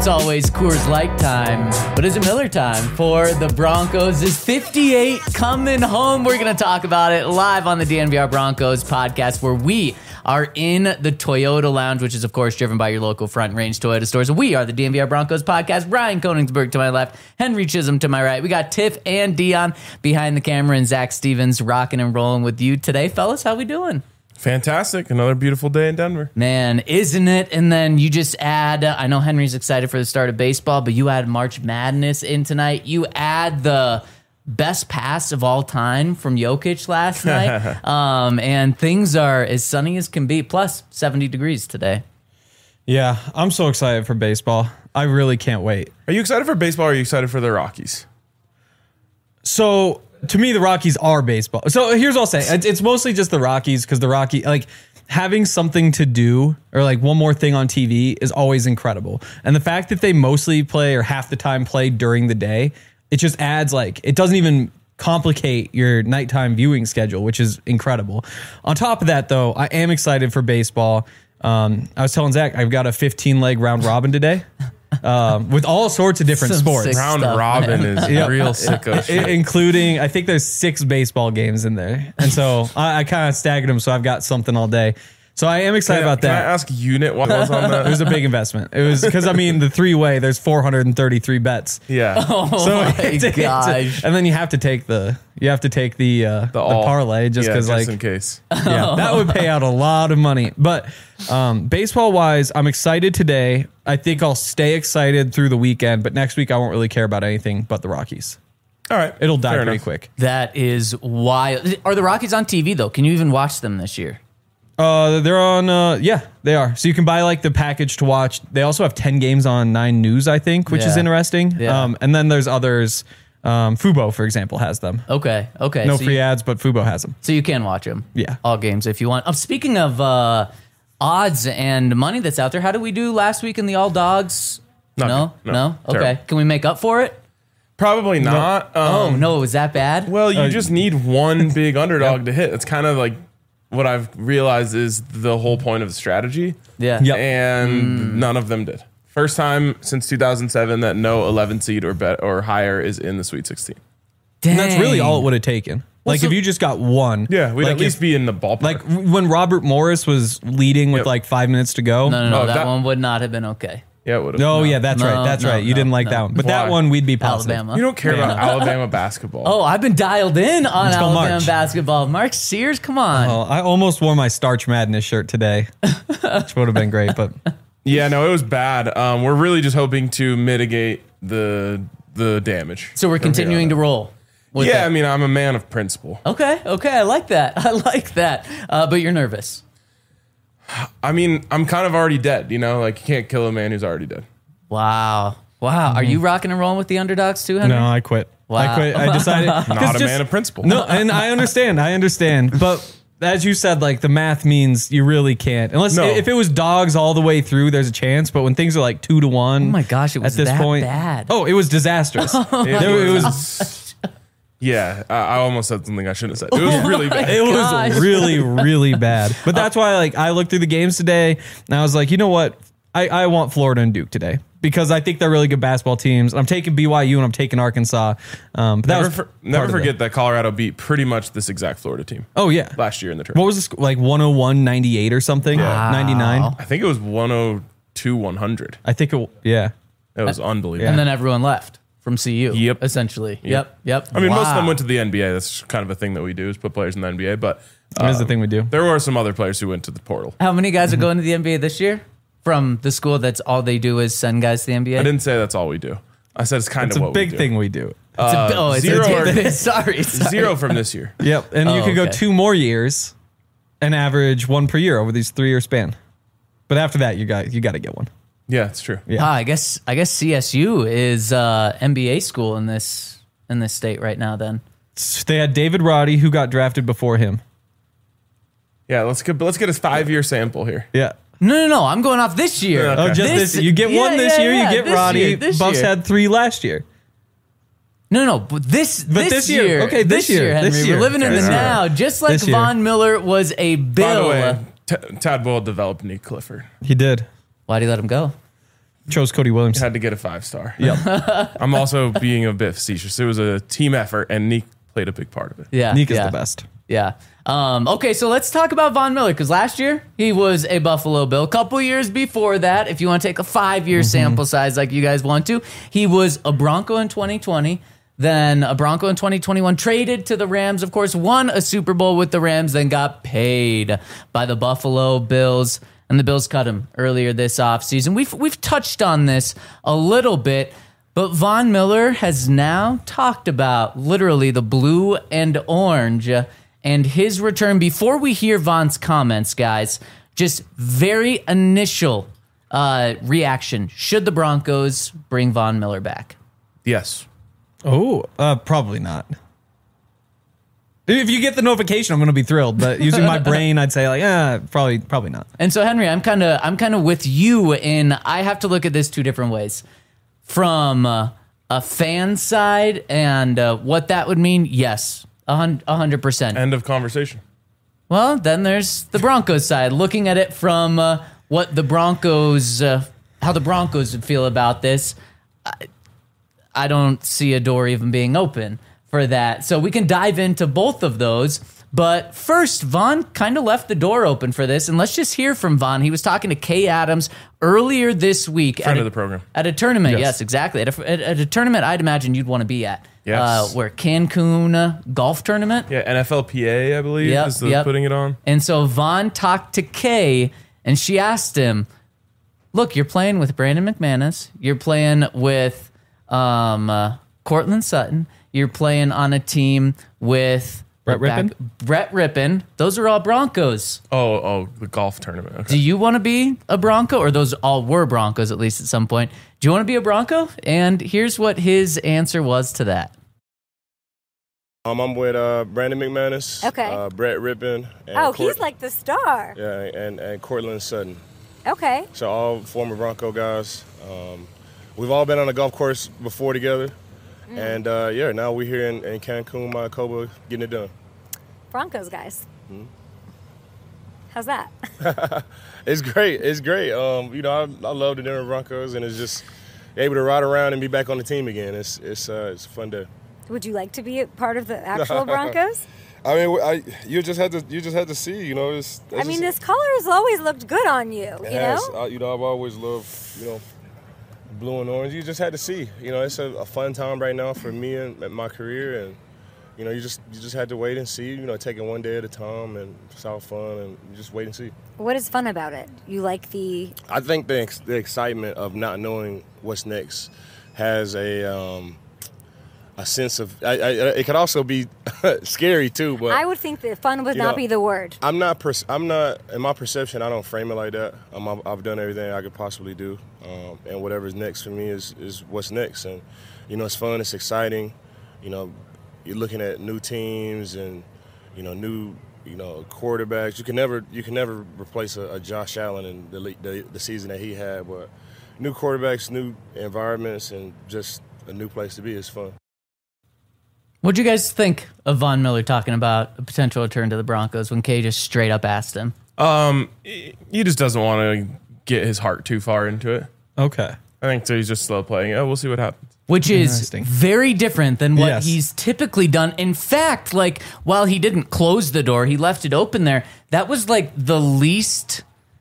It's always Coors Light time, but is it Miller time for the Broncos? Is 58 coming home? We're going to talk about it live on the DNVR Broncos podcast, where we are in the Toyota Lounge, which is, of course, driven by your local Front Range Toyota stores. We are the DNVR Broncos podcast. Brian Koenigsberg to my left, Henry Chisholm to my right. We got Tiff and Dion behind the camera, and Zach Stevens rocking and rolling with you today. Fellas, how we doing? Fantastic. Another beautiful day in Denver. Man, isn't it? And then you just add, I know Henry's excited for the start of baseball, but you add March Madness in tonight. You add the best pass of all time from Jokic last night. And things are as sunny as can be, plus 70 degrees today. Yeah, I'm so excited for baseball. I really can't wait. Are you excited for baseball or are you excited for the Rockies? So, to me, the Rockies are baseball. So, here's what I'll say. It's mostly just the Rockies, because the Rockies, like, having something to do or, like, one more thing on TV is always incredible. And the fact that they mostly play or half the time play during the day, it just adds, like, it doesn't even complicate your nighttime viewing schedule, which is incredible. On top of that, though, I am excited for baseball. I was telling Zach, I've got a 15-leg round robin today. With all sorts of different sports. Round robin is real sicko shit. Including, I think there's 6 baseball games in there. And so I kind of staggered them, so I've got something all day. So I am excited about that. Can I ask unit what was on that? It was a big investment. It was because, I mean, the 3-way, there's 433 bets. Yeah. Oh, So my gosh. and then you have to take the parlay just because, like, in case. yeah, that would pay out a lot of money. But baseball wise, I'm excited today. I think I'll stay excited through the weekend, but next week I won't really care about anything but the Rockies. All right. It'll die Fair pretty enough. quick. That is wild. Are the Rockies on TV, though? Can you even watch them this year? They're on, yeah, they are. So you can buy, like, the package to watch. They also have 10 games on 9 News, I think, which is interesting. Yeah. And then there's others. Fubo, for example, has them. Okay. No free ads, but Fubo has them. So you can watch them. Yeah. All games if you want. Speaking of odds and money that's out there, how did we do last week in the All Dogs? No. Okay. Terrible. Can we make up for it? Probably not. No, was that bad? Well, you just need one big underdog to hit. It's kind of like what I've realized is the whole point of the strategy. Yeah. Yep. And none of them did. First time since 2007 that no 11 seed or higher is in the Sweet 16. Dang. And that's really all it would have taken. Like, so- if you just got one. Yeah, we'd like at least be in the ballpark. Like, when Robert Morris was leading with, like, 5 minutes to go. No. Oh, that that- one would not have been okay. yeah, it would have. Oh, yeah, that's right. That's right. You didn't like that one. But Why? that one, we'd be positive. Alabama. You don't care about Alabama basketball. Oh, I've been dialed in on Let's go Alabama March. basketball. Mark Sears, come on. Oh, I almost wore my Starch Madness shirt today, which would have been great. But Yeah, no, it was bad. We're really just hoping to mitigate the damage. So we're continuing to roll. with Yeah, that. I mean, I'm a man of principle. Okay, I like that. But you're nervous. I mean, I'm kind of already dead, you know? Like, you can't kill a man who's already dead. Wow. Are you rocking and rolling with the underdogs too, Henry? no, I quit. Wow. I quit. I decided Not a man of principle. No, and I understand. But as you said, like, the math means you really can't. Unless if it was dogs all the way through, there's a chance. But when things are like 2-1, Oh my gosh, it was at this that point, bad. Oh, it was disastrous. It was Yeah, I almost said something I shouldn't have said. It was really bad. it Gosh. was really, really bad. But that's why, like, I looked through the games today and I was like, you know what? I want Florida and Duke today because I think they're really good basketball teams. I'm taking BYU and I'm taking Arkansas. But that Never forget that Colorado beat pretty much this exact Florida team. Oh, yeah. Last year in the tournament. What was the score? Like 101-98 or something? Yeah. 99? I think it was 102-100. I think It was unbelievable. And then everyone left from CU. Yep. Essentially. Yep. I mean, most of them Wow. went to the NBA. That's kind of a thing that we do is put players in the NBA. But That is the thing we do. there were some other players who went to the portal. How many guys are going to the NBA this year? From the school that's all they do is send guys to the NBA? I didn't say that's all we do. I said it's kind It's of a what big we do. thing we do. it's zero a sorry. Zero from this year. Yep. And you Oh, could go okay. 2 more years and average 1 per year over these 3-year span. But after that, you got to get one. Yeah, it's true. Yeah. I guess CSU is NBA school in this state right now. Then They had David Roddy, who got drafted before him. Yeah, let's get a 5-year sample here. Yeah. no. I'm going off this year. Okay. Oh, just this. You get one this year. You get this Roddy. year, this Buffs year. had 3 last year. No. But this year. Okay, this year. Henry. This year. We're living in the Okay. now. Just like This year. Von Miller was a bill. By the way, Tad Boyle developed Nick Clifford. He did. Why'd he let him go? chose Cody Williams. Had to get a 5-star. Yep. I'm also being a bit facetious. It was a team effort, and Neek played a big part of it. Yeah. Neek is yeah. the best. Yeah. Okay, so let's talk about Von Miller, because last year he was a Buffalo Bill. A couple years before that, if you want to take a 5-year sample size like you guys want to, he was a Bronco in 2020, then a Bronco in 2021, traded to the Rams, of course, won a Super Bowl with the Rams, then got paid by the Buffalo Bills, and the Bills cut him earlier this offseason. We've touched on this a little bit, but Von Miller has now talked about literally the blue and orange and his return. Before we hear Von's comments, guys, just very initial reaction. Should the Broncos bring Von Miller back? Yes. Oh, probably not. If you get the notification, I'm going to be thrilled. But using my brain, I'd say probably not. And so, Henry, I'm kind of with you in I have to look at this two different ways. From a fan side and what that would mean, yes, 100%. End of conversation. Well, then there's the Broncos side, looking at it from what the Broncos, how the Broncos would feel about this. I don't see a door even being open for that. So we can dive into both of those. But first, Von kind of left the door open for this. And let's just hear from Von. He was talking to Kay Adams earlier this week. Friend of the program. At a tournament. Yes. Yes, exactly. At a tournament I'd imagine you'd want to be at. Yes. Where Cancun golf tournament. Yeah, NFLPA, I believe, is putting it on. And so Von talked to Kay, and she asked him, look, you're playing with Brandon McManus. You're playing with Cortland Sutton. You're playing on a team with Brett Rippon. Those are all Broncos. Oh, the golf tournament. Okay. Do you want to be a Bronco? Or those all were Broncos, at least at some point. Do you want to be a Bronco? And here's what his answer was to that. I'm with Brandon McManus, Okay. Brett Rippon. And he's like the star. Yeah, and Cortland Sutton. Okay. So all former Bronco guys. We've all been on the golf course before together. And now we're here in Cancun, Maricopa, getting it done. Broncos guys. How's that? It's great. It's great. I love the Denver Broncos, and it's just able to ride around and be back on the team again. It's a fun day. Would you like to be a part of the actual Broncos? I mean, you just had to see. This color has always looked good on you. I've always loved blue and orange. You just had to see. It's a fun time right now for me and my career, and you just had to wait and see. Take it one day at a time, and it's all fun, and you just wait and see. What is fun about it? You like I think the excitement of not knowing what's next has a sense of. It could also be scary too, but I would think that fun would not be the word. I'm not in my perception. I don't frame it like that. I've done everything I could possibly do, and whatever's next for me is what's next. And it's fun. It's exciting. You're looking at new teams and new quarterbacks. You can never replace a Josh Allen in the season that he had. But new quarterbacks, new environments, and just a new place to be is fun. What'd you guys think of Von Miller talking about a potential return to the Broncos when Kay just straight up asked him? He just doesn't want to get his heart too far into it. Okay. I think so. He's just slow playing. We'll see what happens. Which is Interesting. very different than what Yes. he's typically done. In fact, while he didn't close the door, he left it open there. That was the least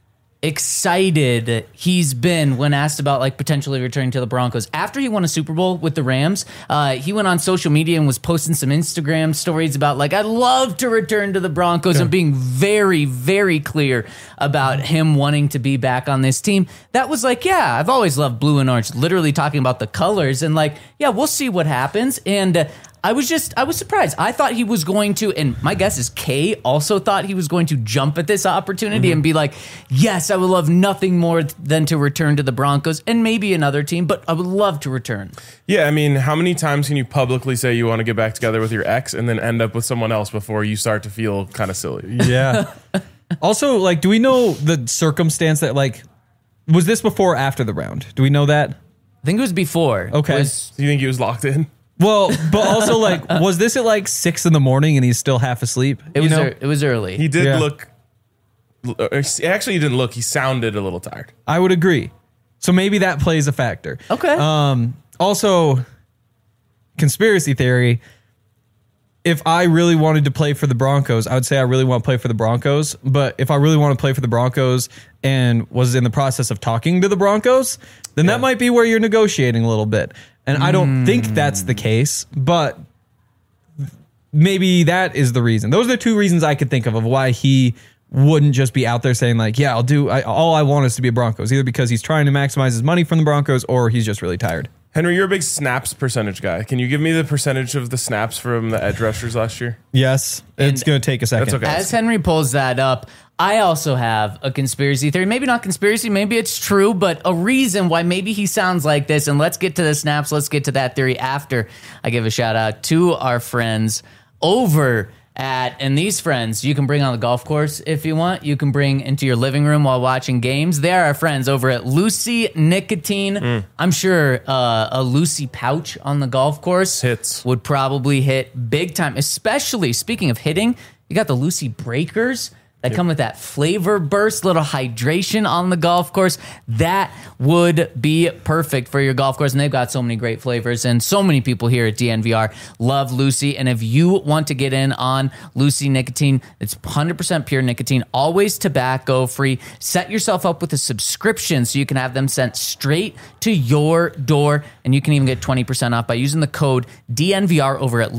excited he's been when asked about potentially returning to the Broncos. After he won a Super Bowl with the Rams, he went on social media and was posting some Instagram stories about I'd love to return to the Broncos, and being very, very clear about him wanting to be back on this team. That was I've always loved blue and orange, literally talking about the colors, and we'll see what happens. And I was surprised. I thought he was going to, and my guess is Kay also thought he was going to jump at this opportunity and be yes, I would love nothing more than to return to the Broncos and maybe another team, but I would love to return. Yeah, I mean, how many times can you publicly say you want to get back together with your ex and then end up with someone else before you start to feel kind of silly? Yeah. Also, do we know the circumstance that was this before or after the round? Do we know that? I think it was before. Okay. Do you think he was locked in? Well, but also was this at 6 a.m. and he's still half asleep? It was early. He did Yeah. look. Actually, he didn't look. He sounded a little tired. I would agree. So maybe that plays a factor. Okay. Also, conspiracy theory. If I really wanted to play for the Broncos, I would say I really want to play for the Broncos. But if I really want to play for the Broncos and was in the process of talking to the Broncos, then that might be where you're negotiating a little bit. And I don't think that's the case, but maybe that is the reason. Those are the two reasons I could think of why he wouldn't just be out there saying like, yeah, I'll do, all I want is to be a Broncos, either because he's trying to maximize his money from the Broncos or he's just really tired. Henry, you're a big snaps percentage guy. Can you give me the percentage of the snaps from the edge rushers last year? Yes, it's going to take a second. That's okay. As Henry pulls that up, I also have a conspiracy theory. Maybe not conspiracy, maybe it's true, but a reason why maybe he sounds like this. And let's get to the snaps. Let's get to that theory after I give a shout out to our friends over at, and these friends you can bring on the golf course if you want. You can bring into your living room while watching games. They are our friends over at Lucy Nicotine. I'm sure a Lucy pouch on the golf course would probably hit big time, especially speaking of hitting, you got the Lucy breakers that come with that flavor burst, little hydration on the golf course. That would be perfect for your golf course. And they've got so many great flavors. And so many people here at DNVR love Lucy. And if you want to get in on Lucy Nicotine, it's 100% pure nicotine, always tobacco free. Set yourself up with a subscription so you can have them sent straight to your door. And you can even get 20% off by using the code DNVR over at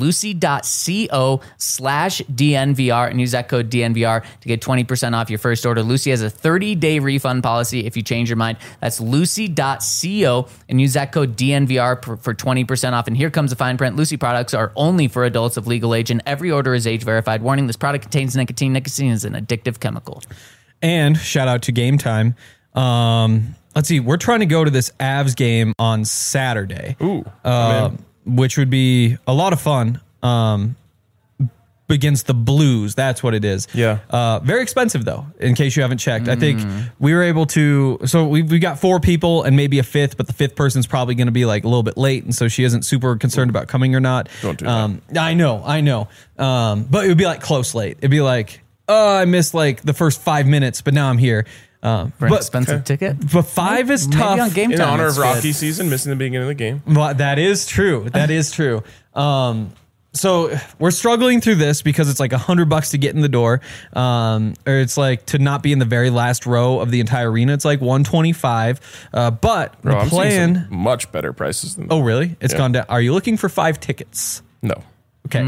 lucy.co/DNVR and use that code DNVR to get 20% off your first order. Lucy has a 30-day refund policy if you change your mind. That's lucy.co and use that code DNVR for 20% off. And here comes the fine print. Lucy products are only for adults of legal age and every order is age verified. Warning, this product contains nicotine. Nicotine is an addictive chemical. And shout out to Game Time. Let's see. We're trying to go to this Avs game on Saturday. Which would be a lot of fun. Against the Blues. That's what it is. Yeah. Very expensive though, in case you haven't checked. I think we were able to, so we got 4 people and maybe a fifth, but the fifth person's probably going to be like a little bit late. And so she isn't super concerned about coming or not. Don't do that. I know. But it would be like close late. It'd be like, oh, I missed like the first 5 minutes, but now I'm here. For an expensive ticket? But 5 is tough. On Game In Time, honor of it's Rocky good. season, missing the beginning of the game. Well, that is true. That is true. So we're struggling through this because it's like $100 to get in the door, or it's like to not be in the very last row of the entire arena. It's like $125. But Bro, the I'm plan. seeing some much better prices than that. Oh, really? It's gone down. Are you looking for 5 tickets? No. Okay.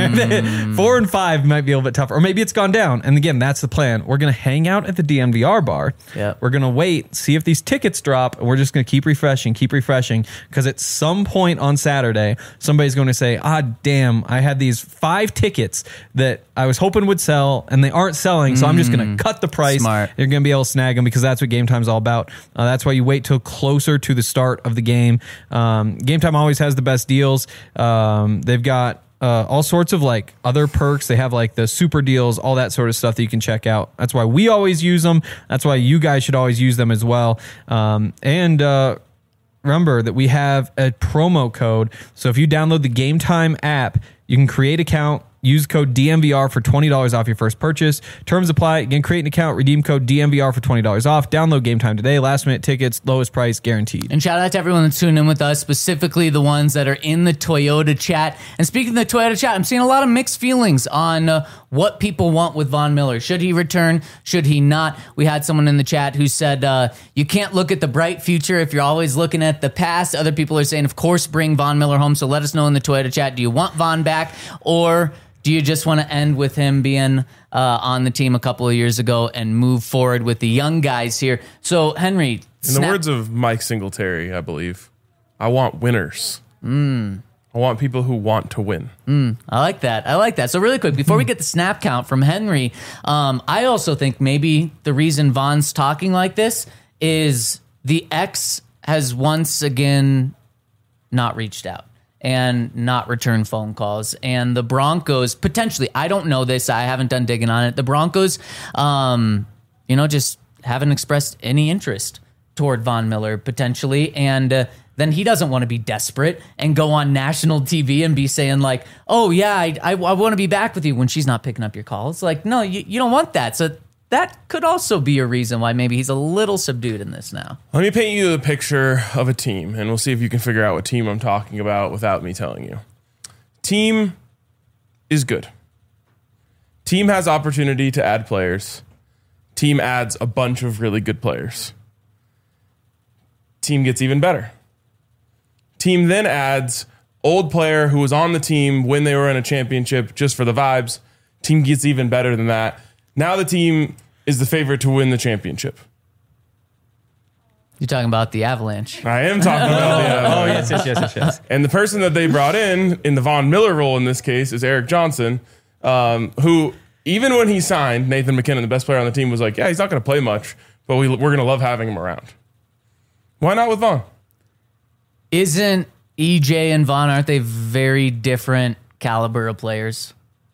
4 and 5 might be a little bit tougher. Or maybe it's gone down. And again, that's the plan. We're going to hang out at the DNVR bar. Yep. We're going to wait, see if these tickets drop, and we're just going to keep refreshing. Because at some point on Saturday, somebody's going to say, damn, I had these 5 tickets that I was hoping would sell, and they aren't selling, so I'm just going to cut the price. Smart. You're going to be able to snag them because that's what Game Time's all about. That's why you wait till closer to the start of the game. Game Time always has the best deals. They've got all sorts of like other perks. They have like the super deals, all that sort of stuff that you can check out. That's why we always use them. That's why you guys should always use them as well. And remember that we have a promo code. So if you download the Game Time app, you can create an account, use code DNVR for $20 off your first purchase. Terms apply. Again, create an account, redeem code DNVR for $20 off. Download Game Time today. Last minute tickets, lowest price guaranteed. And shout out to everyone that's tuning in with us, specifically the ones that are in the Toyota chat. And speaking of the Toyota chat, I'm seeing a lot of mixed feelings on what people want with Von Miller. Should he return? Should he not? We had someone in the chat who said, you can't look at the bright future if you're always looking at the past. Other people are saying, of course, bring Von Miller home. So let us know in the Toyota chat, do you want Von back, or do you just want to end with him being on the team a couple of years ago and move forward with the young guys here? So, Henry, in the words of Mike Singletary, I believe, I want winners. I want people who want to win. I like that. So really quick, before we get the snap count from Henry, I also think maybe the reason Von's talking like this is the ex has once again not reached out and not return phone calls. And the Broncos, potentially, I don't know this, I haven't done digging on it. The Broncos, just haven't expressed any interest toward Von Miller, potentially. And then he doesn't want to be desperate and go on national TV and be saying like, oh yeah, I want to be back with you when she's not picking up your calls. Like, no, you don't want that. So that could also be a reason why maybe he's a little subdued in this now. Let me paint you a picture of a team, and we'll see if you can figure out what team I'm talking about without me telling you. Team is good. Team has opportunity to add players. Team adds a bunch of really good players. Team gets even better. Team then adds old player who was on the team when they were in a championship just for the vibes. Team gets even better than that. Now the team is the favorite to win the championship. You're talking about the Avalanche. I am talking about the Avalanche. Yes. And the person that they brought in the Von Miller role in this case is Erik Johnson, who, even when he signed, Nathan McKinnon, the best player on the team, was like, yeah, he's not going to play much, but we're going to love having him around. Why not with Von? Isn't EJ and Von, aren't they very different caliber of players?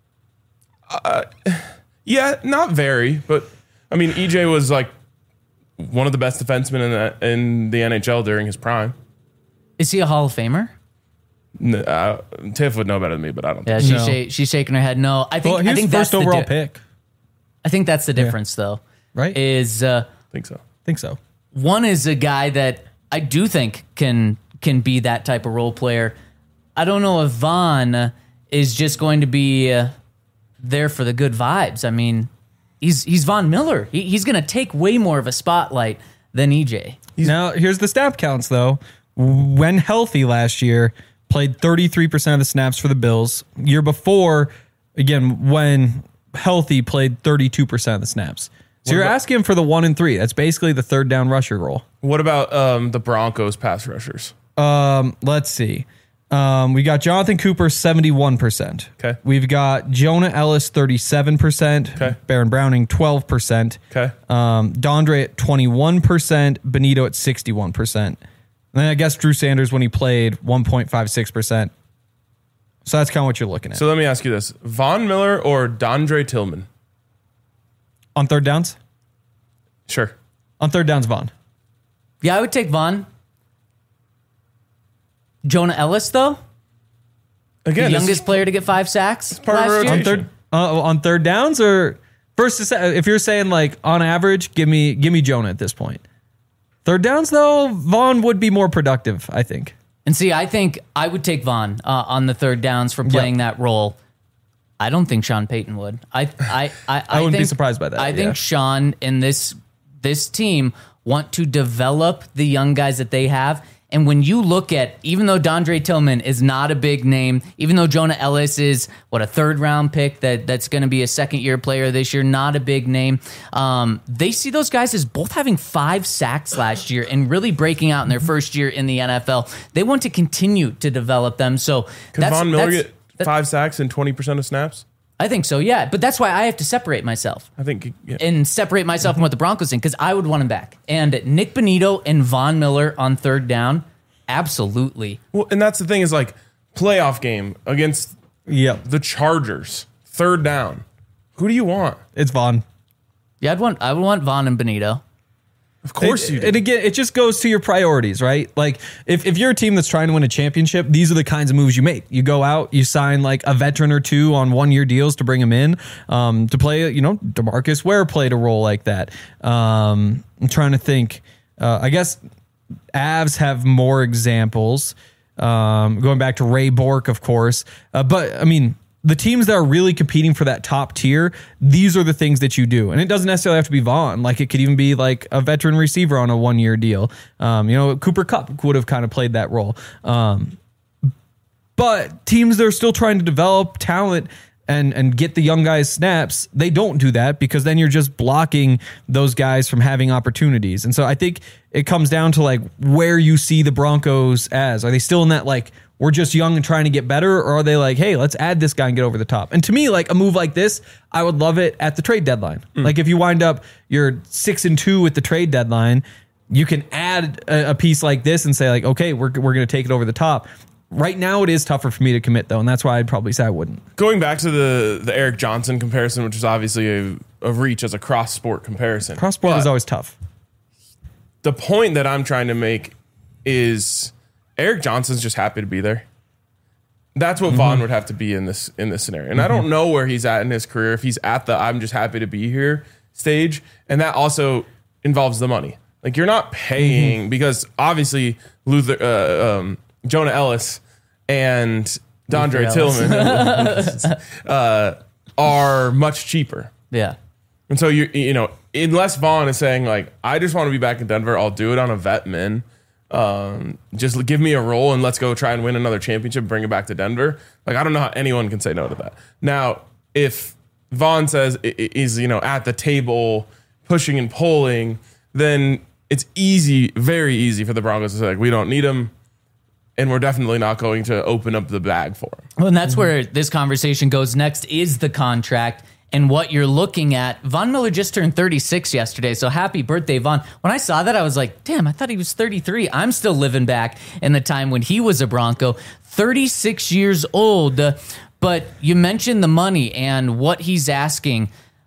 Yeah, not very, but I mean, EJ was like one of the best defensemen in the NHL during his prime. Is he a Hall of Famer? Tiff would know better than me, but I don't. Yeah, she's shaking her head. No, I think that's first overall pick. I think that's the difference, though. Right? Is Think so. Think so. one is a guy that I do think can be that type of role player. I don't know if Von is just going to be there for the good vibes. I mean, he's Von Miller. He's going to take way more of a spotlight than EJ. Now, here's the snap counts, though. When healthy last year, played 33% of the snaps for the Bills. Year before, again, when healthy, played 32% of the snaps. So you're asking for the 1 and 3. That's basically the third down rusher role. What about the Broncos pass rushers? Let's see. We got Jonathan Cooper, 71%. Okay. We've got Jonah Ellis, 37%. Okay. Baron Browning, 12%. Okay. Dondre at 21%. Benito at 61%. And then I guess Drew Sanders, when he played, 1.56%. So that's kind of what you're looking at. So let me ask you this. Von Miller or Dondre Tillman? On third downs? Sure. On third downs, Von. Yeah, I would take Von. Jonah Ellis, though, Again, the youngest player to get 5 sacks part of last our year. rotation. On third downs, or if you're saying like on average, give me Jonah at this point. Third downs, though, Von would be more productive, I think. And see, I think I would take Von on the third downs for playing that role. I don't think Sean Payton would. I wouldn't be surprised by that. I think Sean and this team want to develop the young guys that they have. And when you look at, even though Dondre Tillman is not a big name, even though Jonah Ellis is, a third-round pick that's going to be a second-year player this year, not a big name, they see those guys as both having 5 sacks last year and really breaking out in their first year in the NFL. They want to continue to develop them. So Could Von Miller get 5 sacks and 20% of snaps? I think so, yeah. But that's why I have to separate myself. I think, yeah. And separate myself from what the Broncos think, because I would want him back. And Nick Benito and Von Miller on third down, absolutely. Well, and that's the thing is like playoff game against the Chargers, third down. Who do you want? It's Von. Yeah, I would want Von and Benito. Of course you do. And again, it just goes to your priorities, right? Like, if you're a team that's trying to win a championship, these are the kinds of moves you make. You go out, you sign like a veteran or two on 1-year deals to bring them in to play. DeMarcus Ware played a role like that. I'm trying to think. I guess Avs have more examples. Going back to Ray Bork, of course. But I mean, the teams that are really competing for that top tier, these are the things that you do. And it doesn't necessarily have to be Vaughn. Like, it could even be like a veteran receiver on a 1-year deal. Cooper Kupp would have kind of played that role. But teams that are still trying to develop talent and get the young guys snaps, they don't do that because then you're just blocking those guys from having opportunities. And so I think it comes down to like where you see the Broncos as. Are they still in that like, we're just young and trying to get better, or are they like, hey, let's add this guy and get over the top? And to me, like a move like this, I would love it at the trade deadline. Like if you wind up you're 6-2 at the trade deadline, you can add a piece like this and say like, okay, we're going to take it over the top. Right now, it is tougher for me to commit, though, and that's why I'd probably say I wouldn't. Going back to the Erik Johnson comparison, which is obviously a reach as a cross-sport comparison. Cross-sport is always tough. The point that I'm trying to make is Erik Johnson's just happy to be there. That's what Vaughn would have to be in this scenario. And I don't know where he's at in his career. If he's at the I'm just happy to be here stage, and that also involves the money. Like you're not paying because obviously Jonah Ellis and Dondre Tillman are much cheaper. Yeah. And so you know, unless Vaughn is saying like, I just want to be back in Denver, I'll do it on a vet min. Just give me a role and let's go try and win another championship, bring it back to Denver. Like I don't know how anyone can say no to that. Now, if Vaughn says is at the table pushing and pulling, then it's easy, very easy for the Broncos to say like, we don't need him. And we're definitely not going to open up the bag for him. Well, and that's where this conversation goes next is the contract and what you're looking at. Von Miller just turned 36 yesterday, so happy birthday, Von. When I saw that, I was like, damn, I thought he was 33. I'm still living back in the time when he was a Bronco. 36 years old, but you mentioned the money and what he's asking.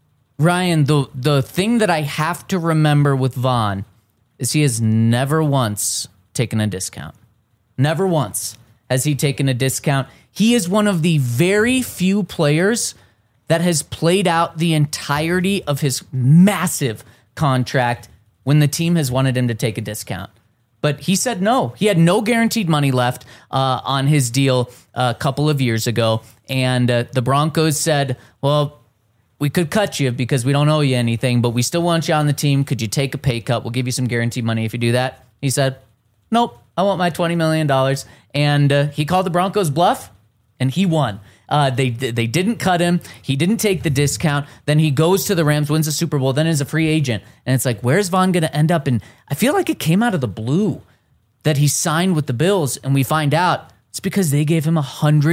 Ryan, the thing that I have to remember with Von is he has never once taken a discount. Never once has he taken a discount. He is one of the very few players that has played out the entirety of his massive contract when the team has wanted him to take a discount. But he said no. He had no guaranteed money left on his deal a couple of years ago. And the Broncos said, well, we could cut you because we don't owe you anything, but we still want you on the team. Could you take a pay cut? We'll give you some guaranteed money if you do that. He said, nope, I want my $20 million. And he called the Broncos bluff, and he won. They didn't cut him. He didn't take the discount. Then he goes to the Rams, wins the Super Bowl, then is a free agent. And it's like, where's Von going to end up? And I feel like it came out of the blue that he signed with the Bills, and we find out it's because they gave him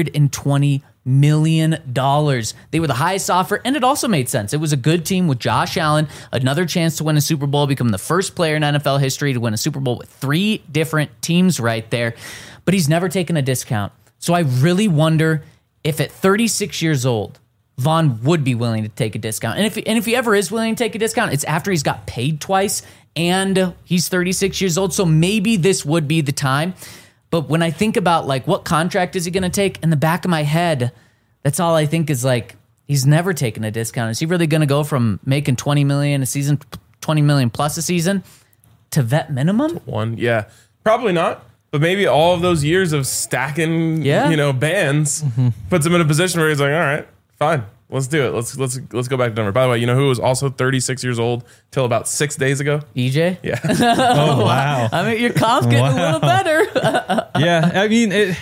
$120 million. They were the highest offer, and it also made sense. It was a good team with Josh Allen, another chance to win a Super Bowl, become the first player in NFL history to win a Super Bowl with 3 different teams right there. But he's never taken a discount. So I really wonder if at 36 years old, Von would be willing to take a discount. And if he ever is willing to take a discount, it's after he's got paid twice and he's 36 years old. So maybe this would be the time. But when I think about like what contract is he going to take, in the back of my head, that's all I think is like, he's never taken a discount. Is he really going to go from making $20 million a season, $20 million plus a season to vet minimum? Yeah, probably not. But maybe all of those years of stacking, bands puts him in a position where he's like, all right, fine, let's do it. Let's go back to Denver. By the way, you know who was also 36 years old till about 6 days ago? EJ? Yeah. Oh, wow. I mean, your comp's getting a little better. Yeah, I mean,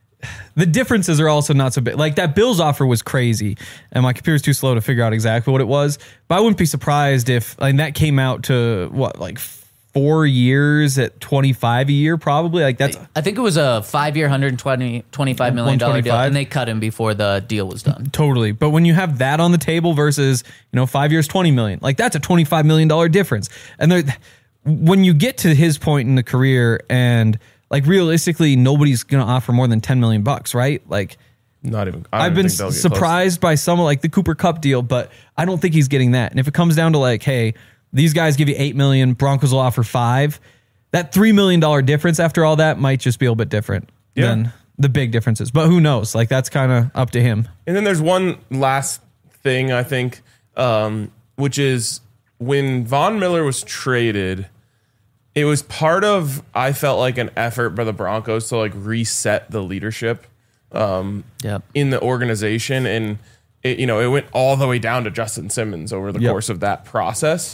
the differences are also not so big. Like that Bills offer was crazy, and my computer's too slow to figure out exactly what it was. But I wouldn't be surprised if that came out to what, like 4 years at $25 a year, probably. Like that's. I think it was a 5-year, $125 million deal, and they cut him before the deal was done. Totally, but when you have that on the table versus 5 years, $20 million, like that's a $25 million difference. And when you get to his point in the career, and like realistically, nobody's gonna offer more than $10 million, right? Like. Not even. I've been surprised by some like the Cooper Kupp deal, but I don't think he's getting that. And if it comes down to like, hey, these guys give you $8 million, Broncos will offer $5 million. That $3 million difference after all that might just be a little bit different than the big differences. But who knows? Like that's kind of up to him. And then there's one last thing I think, which is when Von Miller was traded, it was part of, I felt like, an effort by the Broncos to like reset the leadership in the organization. And it went all the way down to Justin Simmons over the course of that process.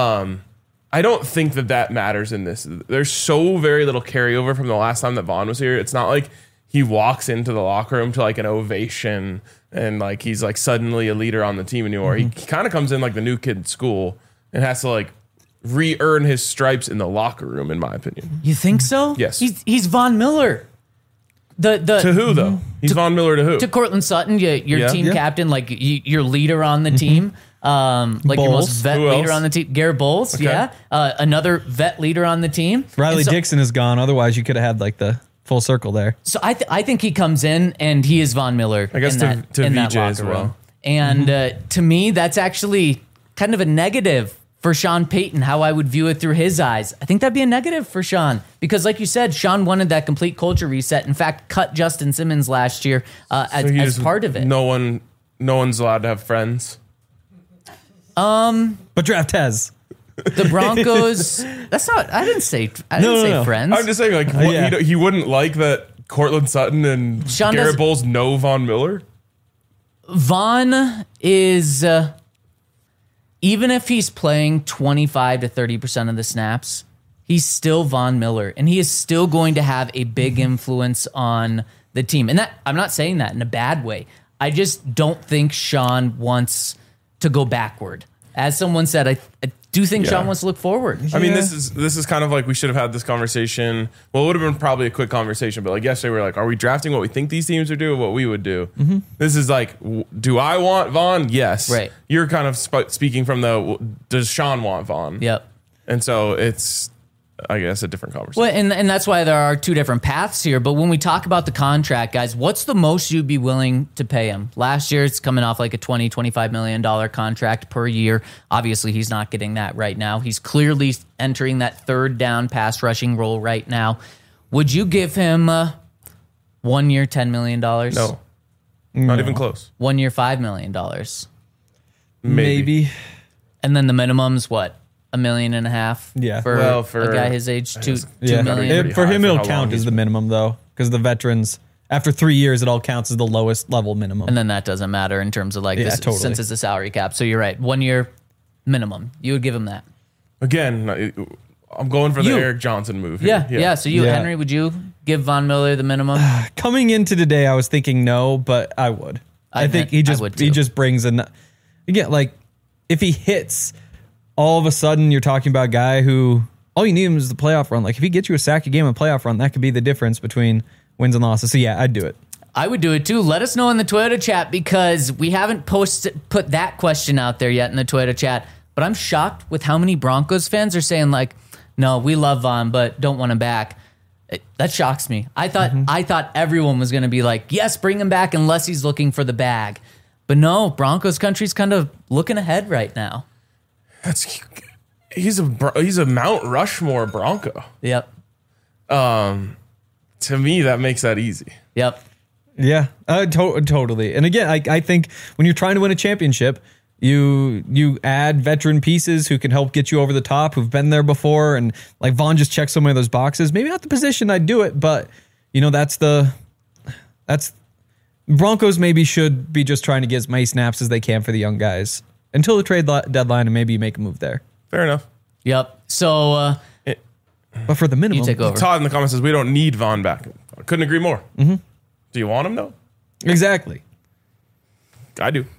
I don't think that matters in this. There's so very little carryover from the last time that Vaughn was here. It's not like he walks into the locker room to like an ovation and like he's like suddenly a leader on the team anymore. He kind of comes in like the new kid in school and has to like re-earn his stripes in the locker room, in my opinion. You think so? Yes. He's Von Miller. To who though? He's Von Miller to who? To Cortland Sutton, your team captain, like your leader on the team. Like Bowles. your most vet Who leader else? on the team. Garrett Bowles, Okay. another vet leader on the team. Riley And so, Dixon is gone. Otherwise, you could have had like the full circle there. So I think he comes in and he is Von Miller. I guess in that VJ as locker well. room. And to me, that's actually kind of a negative for Sean Payton, how I would view it through his eyes. I think that'd be a negative for Sean because, like you said, Sean wanted that complete culture reset. In fact, cut Justin Simmons last year as part of it. No one's allowed to have friends. But draft Tez. The Broncos. That's not. I didn't say friends. I'm just saying, like, he wouldn't like that Cortland Sutton and Sean Garrett Bowles know Von Miller. Von is, even if he's playing 25 to 30% of the snaps, he's still Von Miller, and he is still going to have a big influence on the team. And that I'm not saying that in a bad way. I just don't think Sean wants to go backward. As someone said, I do think Sean wants to look forward. I mean, this is kind of like we should have had this conversation. Well, it would have been probably a quick conversation, but like yesterday we were like, are we drafting what we think these teams would do or what we would do? Mm-hmm. This is like, do I want Von? Yes. Right. You're kind of speaking from does Sean want Von? Yep. And so it's, I guess, a different conversation. Well, and that's why there are two different paths here. But when we talk about the contract, guys, what's the most you'd be willing to pay him? Last year, it's coming off like a $25 million contract per year. Obviously, he's not getting that right now. He's clearly entering that third down pass rushing role right now. Would you give him 1 year, $10 million? No. Not even close. 1 year, $5 million? Maybe. And then the minimum's what? $1.5 million? Yeah. For a guy his age, $2 million. For him, it'll count as the minimum, though, because the veterans, after 3 years, it all counts as the lowest level minimum. And then that doesn't matter in terms of like this, totally. Since it's a salary cap. So you're right. 1 year minimum. You would give him that. Again, I'm going for the Eric Johnson move here. Yeah. So Henry, would you give Von Miller the minimum? Coming into today, I was thinking no, but I would. I think he just brings in. Again, like if he hits, all of a sudden you're talking about a guy who all you need him is the playoff run. Like if he gets you a sack a game and playoff run, that could be the difference between wins and losses. So yeah, I'd do it. I would do it too. Let us know in the Toyota chat because we haven't put that question out there yet in the Toyota chat. But I'm shocked with how many Broncos fans are saying like, no, we love Von, but don't want him back. That shocks me. I thought everyone was going to be like, yes, bring him back unless he's looking for the bag. But no, Broncos country's kind of looking ahead right now. He's a Mount Rushmore Bronco. Yep. To me, that makes that easy. Yep. Yeah, totally. And again, I think when you're trying to win a championship, you add veteran pieces who can help get you over the top, who've been there before, and like Von just checks so many of those boxes. Maybe not the position I'd do it, but that's Broncos maybe should be just trying to get as many snaps as they can for the young guys until the trade deadline, and maybe you make a move there. Fair enough. Yep. So, but for the minimum, you take over. Todd in the comments says we don't need Von back. I couldn't agree more. Mm-hmm. Do you want him though? Exactly. I do.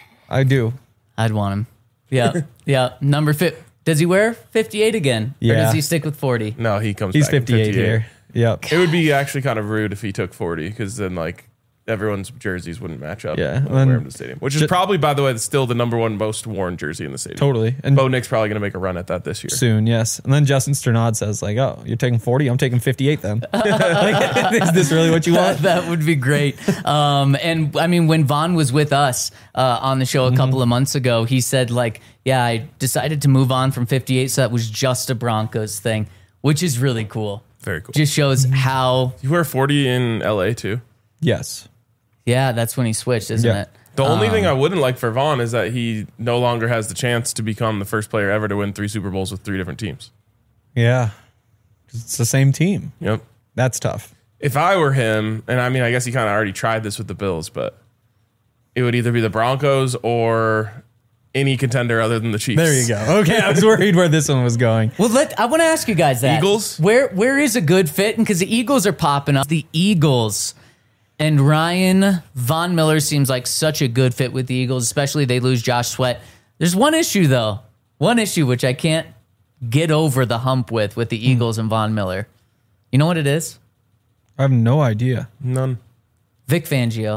I'd want him. Yeah. Yeah. Number 50. Does he wear 58 again? Yeah. Or does he stick with 40? No, he's back 58 here. Yep. It would be actually kind of rude if he took 40 because then like everyone's jerseys wouldn't match up. Yeah. When wear him to the stadium, which is probably, by the way, still the number one most worn jersey in the stadium. Totally. And Bo Nick's probably going to make a run at that this year. Soon, yes. And then Justin Sternad says like, oh, you're taking 40? I'm taking 58 then. Is this really what you want? That would be great. And I mean, when Von was with us on the show a couple of months ago, he said like, yeah, I decided to move on from 58. So that was just a Broncos thing, which is really cool. Very cool. Just shows how. You wear 40 in LA too? Yes. Yeah, that's when he switched, isn't it? The only thing I wouldn't like for Von is that he no longer has the chance to become the first player ever to win 3 Super Bowls with 3 different teams. Yeah. It's the same team. Yep. That's tough. If I were him, and I mean, I guess he kind of already tried this with the Bills, but it would either be the Broncos or any contender other than the Chiefs. There you go. Okay, I was worried where this one was going. Well, I want to ask you guys that. Eagles? Where is a good fit? And because the Eagles are popping up. The Eagles and Ryan Von Miller seems like such a good fit with the Eagles, especially they lose Josh Sweat. There's one issue, though. One issue which I can't get over the hump with the Eagles and Von Miller. You know what it is? I have no idea. None. Vic Fangio.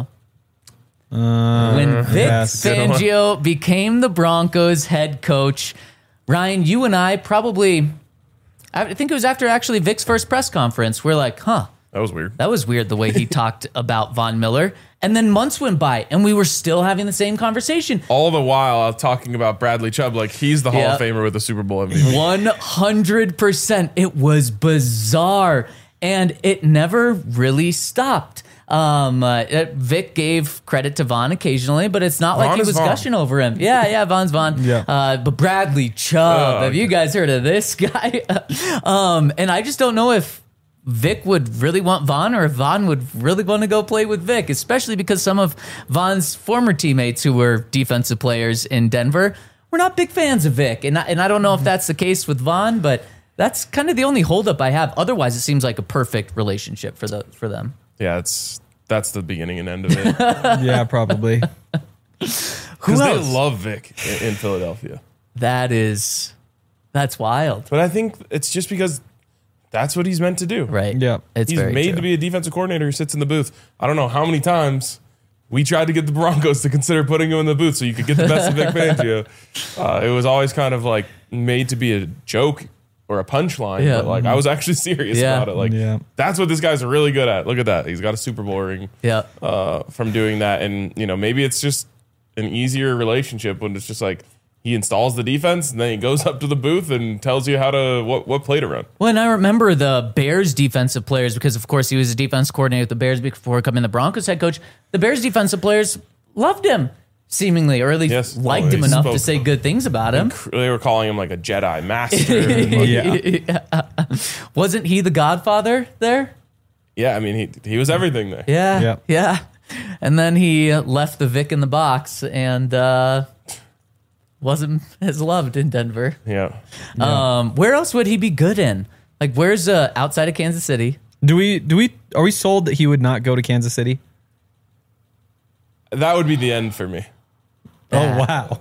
When Vic Fangio became the Broncos head coach, Ryan, you and I probably, I think it was after actually Vic's first press conference, we're like, huh. That was weird. That was weird the way he talked about Von Miller. And then months went by and we were still having the same conversation. All the while I was talking about Bradley Chubb like he's the Hall of Famer with the Super Bowl MVP. 100%. It was bizarre. And it never really stopped. Vic gave credit to Von occasionally, but it's not like Von he is was Von. gushing over him. Yeah, Von's Von. Yeah. But Bradley Chubb, have you guys heard of this guy? And I just don't know if Vic would really want Von or if Von would really want to go play with Vic, especially because some of Von's former teammates who were defensive players in Denver were not big fans of Vic. And I don't know if that's the case with Von, but that's kind of the only holdup I have. Otherwise, it seems like a perfect relationship for them. Yeah, that's the beginning and end of it. Yeah, probably. Because they love Vic in Philadelphia. That's wild. But I think it's just because that's what he's meant to do. Right. Yeah. It's He's very made true. to be a defensive coordinator who sits in the booth. I don't know how many times we tried to get the Broncos to consider putting him in the booth so you could get the best of Vic Fangio. It was always kind of like made to be a joke or a punchline, Yeah. but like I was actually serious Yeah. about it. Like that's what this guy's really good at. Look at that. He's got a Super Bowl ring from doing that. And maybe it's just an easier relationship when it's just like he installs the defense and then he goes up to the booth and tells you how to what play to run. Well, and I remember the Bears defensive players because, of course, he was a defense coordinator with the Bears before becoming the Broncos head coach. The Bears defensive players loved him, seemingly, or at least liked him enough to say good things about him. They were calling him like a Jedi master. Wasn't he the Godfather there? Yeah, I mean, he was everything there. Yeah. And then he left the Vic in the box and wasn't as loved in Denver. Yeah. Where else would he be good in? Like, where's outside of Kansas City? Are we sold that he would not go to Kansas City? That would be the end for me. Oh, wow.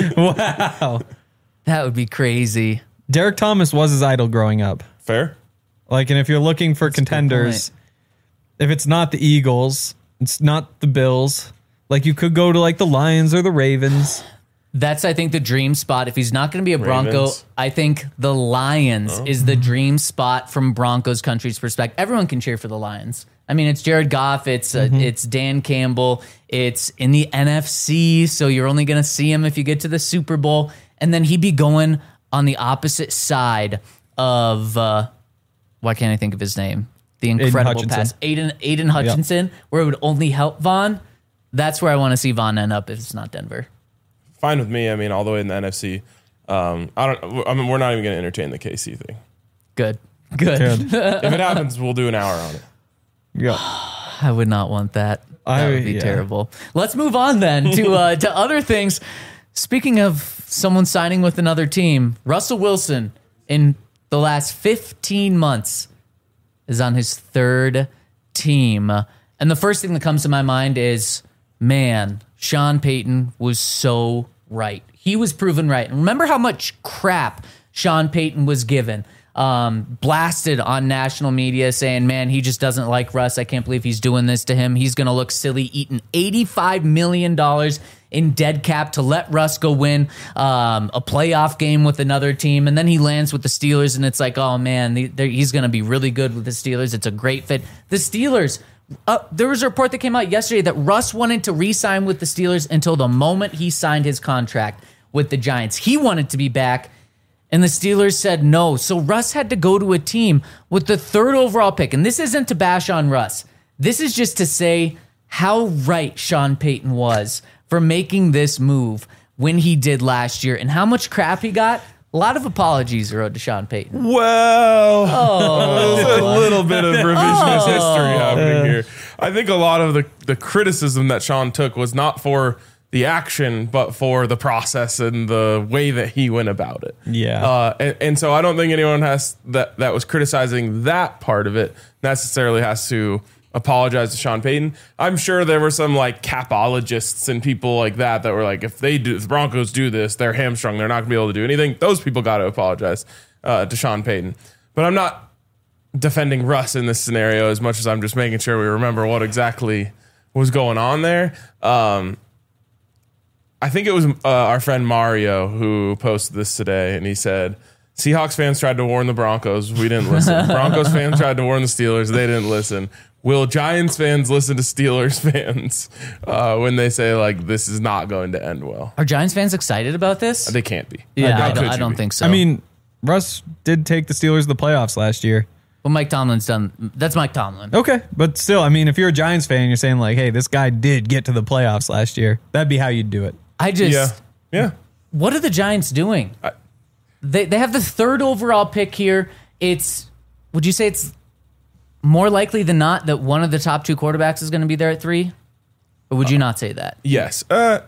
Wow. That would be crazy. Derek Thomas was his idol growing up. Fair? Like, and if you're looking for contenders, if it's not the Eagles, it's not the Bills, like you could go to like the Lions or the Ravens. That's, I think, the dream spot. If he's not going to be a Bronco, Ravens. I think the Lions is the dream spot from Broncos country's perspective. Everyone can cheer for the Lions. I mean, it's Jared Goff, it's Dan Campbell, it's in the NFC, so you're only going to see him if you get to the Super Bowl. And then he'd be going on the opposite side of, why can't I think of his name? The incredible pass. Aiden Hutchinson, where it would only help Von. That's where I want to see Von end up if it's not Denver. Fine with me. I mean, all the way in the NFC. We're not even going to entertain the KC thing. Good. If it happens, we'll do an hour on it. Yeah. I would not want that. That would be terrible. Let's move on then to other things. Speaking of someone signing with another team, Russell Wilson in the last 15 months is on his third team. And the first thing that comes to my mind is, man, Sean Payton was so right. He was proven right. And remember how much crap Sean Payton was given. Blasted on national media saying, man, he just doesn't like Russ. I can't believe he's doing this to him. He's going to look silly eating $85 million in dead cap to let Russ go win a playoff game with another team. And then he lands with the Steelers and it's like, oh man, he's going to be really good with the Steelers. It's a great fit. The Steelers, there was a report that came out yesterday that Russ wanted to re-sign with the Steelers until the moment he signed his contract with the Giants. He wanted to be back. And the Steelers said no. So Russ had to go to a team with the third overall pick. And this isn't to bash on Russ. This is just to say how right Sean Payton was for making this move when he did last year and how much crap he got. A lot of apologies are owed to Sean Payton. Well, there's a little bit of revisionist history happening here. I think a lot of the criticism that Sean took was not for the action, but for the process and the way that he went about it. Yeah. And so I don't think anyone that was criticizing that part of it necessarily has to apologize to Sean Payton. I'm sure there were some like capologists and people like that were like, if the Broncos do this, they're hamstrung. They're not going to be able to do anything. Those people got to apologize to Sean Payton. But I'm not defending Russ in this scenario as much as I'm just making sure we remember what exactly was going on there. I think it was our friend Mario who posted this today, and he said, Seahawks fans tried to warn the Broncos. We didn't listen. Broncos fans tried to warn the Steelers. They didn't listen. Will Giants fans listen to Steelers fans when they say, like, this is not going to end well? Are Giants fans excited about this? They can't be. Yeah, How could I you don't be? think so. I mean, Russ did take the Steelers to the playoffs last year. What Mike Tomlin's done, that's Mike Tomlin. Okay, but still, I mean, if you're a Giants fan, you're saying like, hey, this guy did get to the playoffs last year. That'd be how you'd do it. I just, Yeah. what are the Giants doing? They have the 3rd overall pick here. Would you say it's more likely than not that one of the top 2 quarterbacks is going to be there at 3? Or would you not say that? Yes.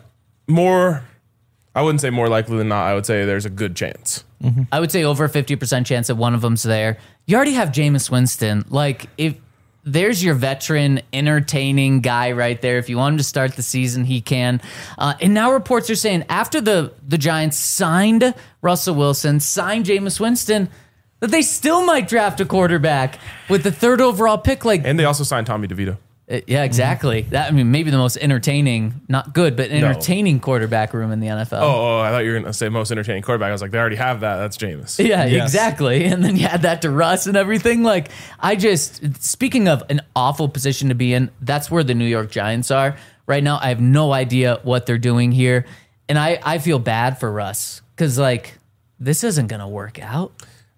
I wouldn't say more likely than not. I would say there's a good chance. I would say over a 50% chance that one of them's there. You already have Jameis Winston. Like, if there's your veteran, entertaining guy right there. If you want him to start the season, he can. And now reports are saying after the Giants signed Russell Wilson, signed Jameis Winston, that they still might draft a quarterback with the 3rd overall pick. And they also signed Tommy DeVito. Yeah, exactly. That, I mean, maybe the most entertaining, not good, but entertaining quarterback room in the NFL. Oh, I thought you were going to say most entertaining quarterback. I was like, they already have that. That's Jameis. Yeah, Yes. exactly. And then you add that to Russ and everything. Like, speaking of an awful position to be in, that's where the New York Giants are right now. I have no idea what they're doing here. And I feel bad for Russ because, like, this isn't going to work out.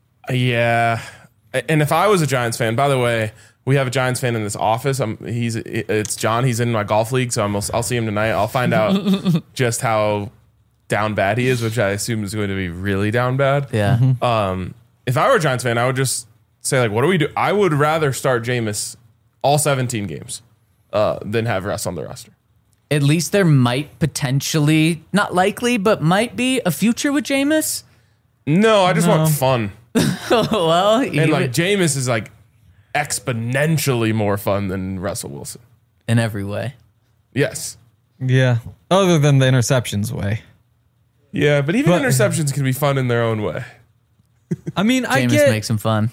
Yeah. And if I was a Giants fan, by the way, we have a Giants fan in this office. It's John. He's in my golf league, so I'll see him tonight. I'll find out just how down bad he is, which I assume is going to be really down bad. Yeah. If I were a Giants fan, I would just say, like, what do we do? I would rather start Jameis all 17 games than have Russ on the roster. At least there might potentially, not likely, but might be a future with Jameis. No, I just want fun. Well, And, like, Jameis is, like, exponentially more fun than Russell Wilson. in every way. Yes. Yeah. Other than the interceptions way. Yeah, but even interceptions can be fun in their own way. I mean, I Jameis get makes him fun.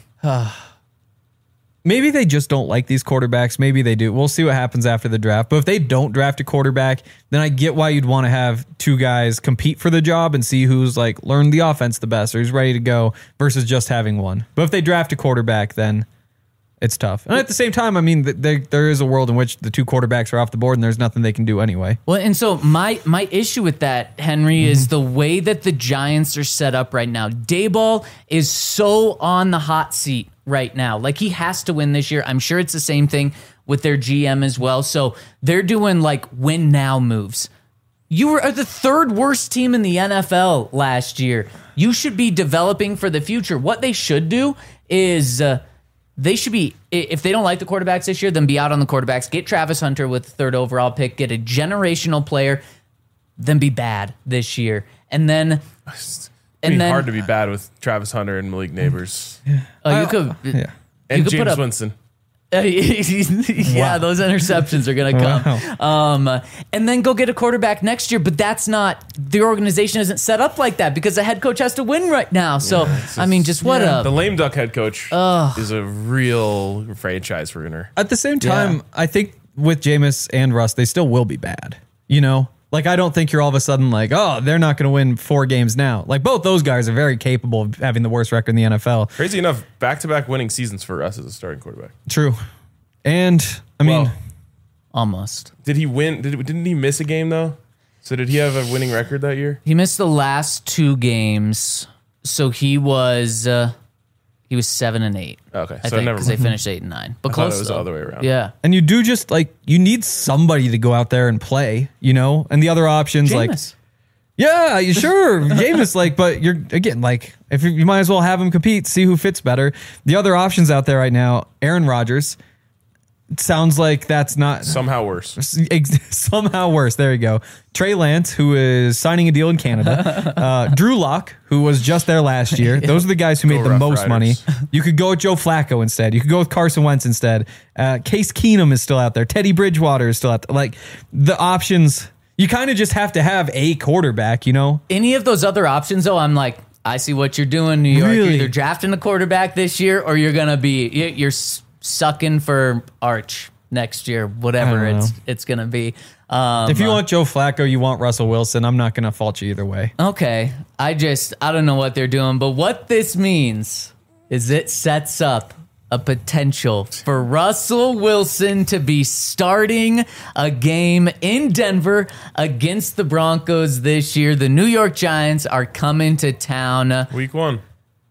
maybe they just don't like these quarterbacks. Maybe they do. We'll see what happens after the draft. But if they don't draft a quarterback, then I get why you'd want to have 2 guys compete for the job and see who's like learned the offense the best or who's ready to go versus just having one. But if they draft a quarterback, then it's tough. And at the same time, I mean, there is a world in which the 2 quarterbacks are off the board and there's nothing they can do anyway. Well, and so my issue with that, Henry, is the way that the Giants are set up right now. Daboll is so on the hot seat right now. Like, he has to win this year. I'm sure it's the same thing with their GM as well. So they're doing like win now moves. You were the 3rd worst team in the NFL last year. You should be developing for the future. What they should do is they should be, if they don't like the quarterbacks this year, then be out on the quarterbacks. Get Travis Hunter with the 3rd overall pick. Get a generational player. Then be bad this year. And then... It's hard to be bad with Travis Hunter and Malik Neighbors. you could... Yeah. And could put James up- Winston. Yeah, those interceptions are going to come. And then go get a quarterback next year. But that's not, the organization isn't set up like that because the head coach has to win right now. So, I mean, just what The a... lame duck head coach is a real franchise ruiner. At the same time, Yeah. I think with Jameis and Russ, they still will be bad. You know? Like, I don't think you're all of a sudden like, oh, they're not going to win 4 games now. Like, both those guys are very capable of having the worst record in the NFL. Crazy enough, back-to-back winning seasons for us as a starting quarterback. True. And, I mean, Well, Almost. did he win? Didn't he miss a game, though? So did he have a winning record that year? He missed the last 2 games. So he was 7-8. Okay, I so think, never because they mind. finished 8-9. But I thought close, it was though. the other way around. Yeah. and you do just like, you need somebody to go out there and play, you know? And the other options, like, Jameis. yeah, you sure. Jameis, like, but you're, again, like, if you might as well have him compete, see who fits better. The other options out there right now, Aaron Rodgers. It sounds like that's not Somehow worse. somehow worse. There you go. Trey Lance, who is signing a deal in Canada. Drew Lock, who was just there last year. Those are the guys who made the Rough most money. Riders. You could go with Joe Flacco instead. You could go with Carson Wentz instead. Case Keenum is still out there. Teddy Bridgewater is still out there. Like, the options, you kind of just have to have a quarterback, you know? Any of those other options, though, I'm like, I see what you're doing, New York. Really? You're either drafting a quarterback this year or you're going to be, you're sucking for Arch next year, whatever I don't know. it's going to be. If you want Joe Flacco, you want Russell Wilson, I'm not going to fault you either way. Okay. I don't know what they're doing, but what this means is it sets up a potential for Russell Wilson to be starting a game in Denver against the Broncos this year. The New York Giants are coming to town. Week 1.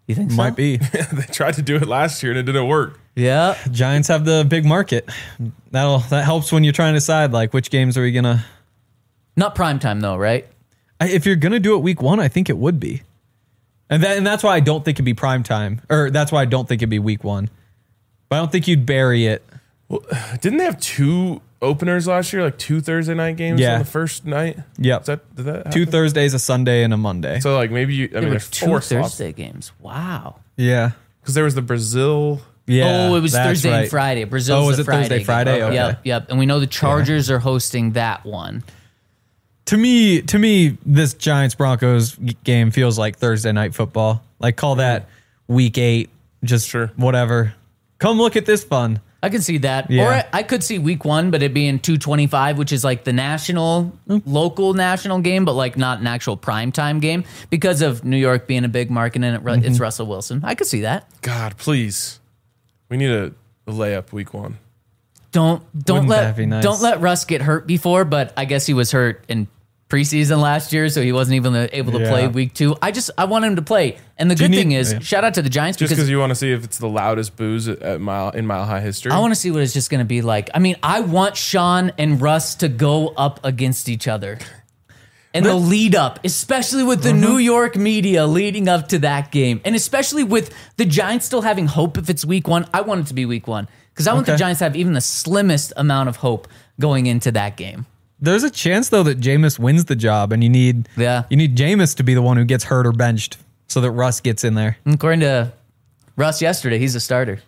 You think Might be. They tried to do it last year and it didn't work. Yeah. Giants have the big market. That helps when you're trying to decide like which games are we gonna. Not prime time though, right? If you're gonna do it week 1, I think it would be, and that's why I don't think it'd be prime time, or that's why I don't think it'd be week 1. But I don't think you'd bury it. Well, didn't they have 2 openers last year, like 2 Thursday night games on the first night? Yep. Did that happen? 2 Thursdays, a Sunday, and a Monday. So like maybe There were there's 2 4 slots Thursday games. Wow. Yeah. because there was the Brazil. Yeah. Oh, it was that's Thursday right. and Friday. Brazil's was the it Friday Thursday, game. Friday? Okay. Yep. And we know the Chargers are hosting that one. To me, this Giants Broncos game feels like Thursday night football. Like call that week 8, just Sure. whatever. Come look at this fun. I could see that. Yeah. Or I could see week 1, but it being 2:25, which is like the local national game, but like not an actual primetime game because of New York being a big market and it's Russell Wilson. I could see that. God, please, we need a layup week 1. Don't Wouldn't that be nice? don't let Russ get hurt before, but I guess he was hurt in preseason last year, so he wasn't even able to play week 2. I want him to play. And the good thing is, shout out to the Giants Just because because you want to see if it's the loudest booze in Mile High history. I want to see what it's just going to be like. I mean, I want Sean and Russ to go up against each other. And the lead up, especially with the New York media leading up to that game. And especially with the Giants still having hope if it's week 1. I want it to be week 1. Because I want the Giants to have even the slimmest amount of hope going into that game. There's a chance though that Jameis wins the job, and you need Jameis to be the one who gets hurt or benched so that Russ gets in there. According to Russ yesterday, he's a starter.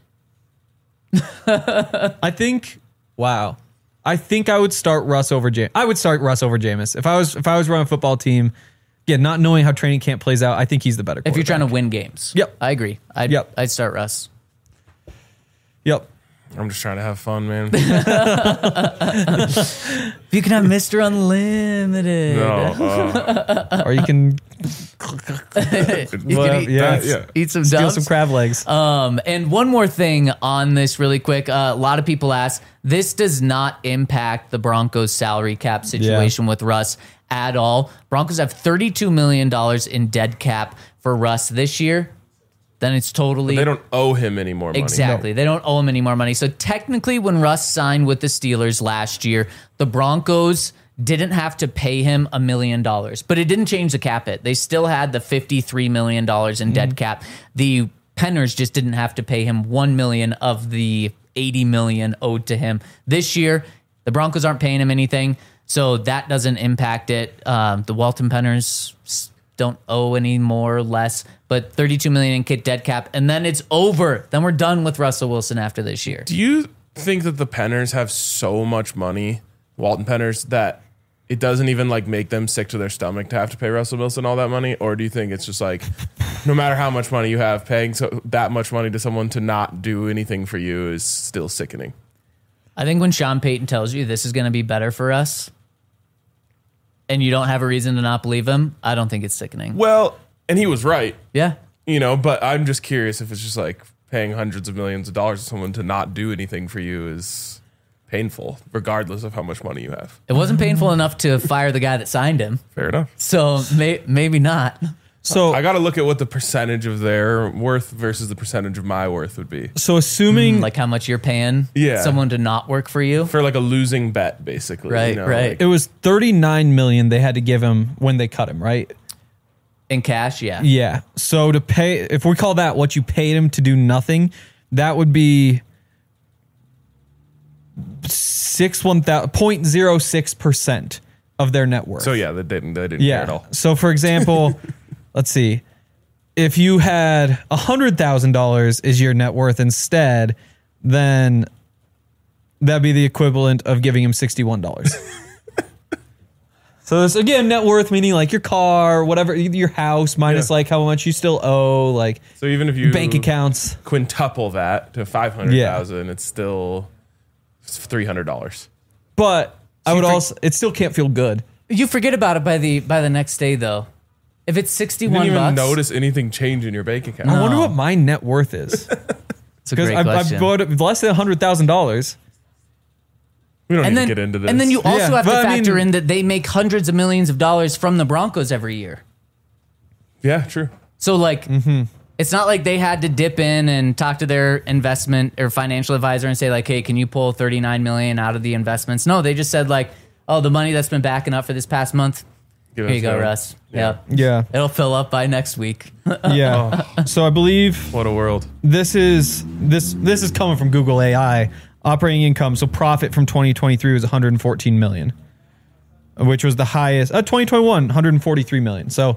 I think I would start Russ over Jameis. I would start Russ over Jameis. If I was running a football team, again, not knowing how training camp plays out, I think he's the better quarterback. If you're trying to win games. Yep. I agree. I'd start Russ. Yep. I'm just trying to have fun, man. You can have Mr. Unlimited. No, Or you can You can eat some steal dubs. some crab legs. And one more thing on this really quick. A lot of people ask, this does not impact the Broncos salary cap situation with Russ at all. Broncos have $32 million in dead cap for Russ this year. Then it's totally... they don't owe him any more money. Exactly. They don't owe him any more money. So technically when Russ signed with the Steelers last year, the Broncos didn't have to pay him $1 million, but it didn't change the cap hit. They still had the $53 million in dead cap. The Penners just didn't have to pay him $1 million of the $80 million owed to him. This year, the Broncos aren't paying him anything, so that doesn't impact it. The Walton Penners don't owe any more or less, but $32 million in kit dead cap, and then it's over. Then we're done with Russell Wilson after this year. Do you think that the Penners have so much money, Walton Penners, that it doesn't even like make them sick to their stomach to have to pay Russell Wilson all that money? Or do you think it's just like, no matter how much money you have, paying that much money to someone to not do anything for you is still sickening? I think when Sean Payton tells you this is going to be better for us, and you don't have a reason to not believe him, I don't think it's sickening. Well, and he was right, Yeah. but I'm just curious if it's just like paying hundreds of millions of dollars to someone to not do anything for you is painful, regardless of how much money you have. It wasn't painful enough to fire the guy that signed him, Fair enough. so maybe not. So I got to look at what the percentage of their worth versus the percentage of my worth would be So assuming Like how much you're paying Yeah. someone to not work for you. for like a losing bet, basically. Right, right. like- it was $39 million they had to give him when they cut him, right? In cash, yeah. Yeah. So to pay, if we call that what you paid him to do nothing, that would be 0.06% of their net worth. So yeah, they didn't care at all. So for example, let's see. If you had $100,000 is your net worth instead, then that'd be the equivalent of giving him $61. So this again, net worth meaning like your car, whatever, your house minus like how much you still owe, like So even if you bank accounts. quintuple that to 500,000, it's still $300. But I would also, it still can't feel good. You forget about it by the next day though. If it's You didn't $61, even notice anything change in your bank account. I wonder what my net worth is. it's a Because great I question. bought it less than $100,000. We don't and need then to get into this. And then you also Yeah, have to but I factor mean- in that they make hundreds of millions of dollars from the Broncos every year. Yeah, true. So like It's not like they had to dip in and talk to their investment or financial advisor and say like, hey, can you pull $39 million out of the investments? No, they just said like, oh, the money that's been backing up for this past month. Here you go, Russ. Yeah. It'll fill up by next week. Yeah. So I believe What a world. this is coming from Google AI. Operating income, so profit from 2023 was 114 million, which was the highest. 2021, 143 million. So,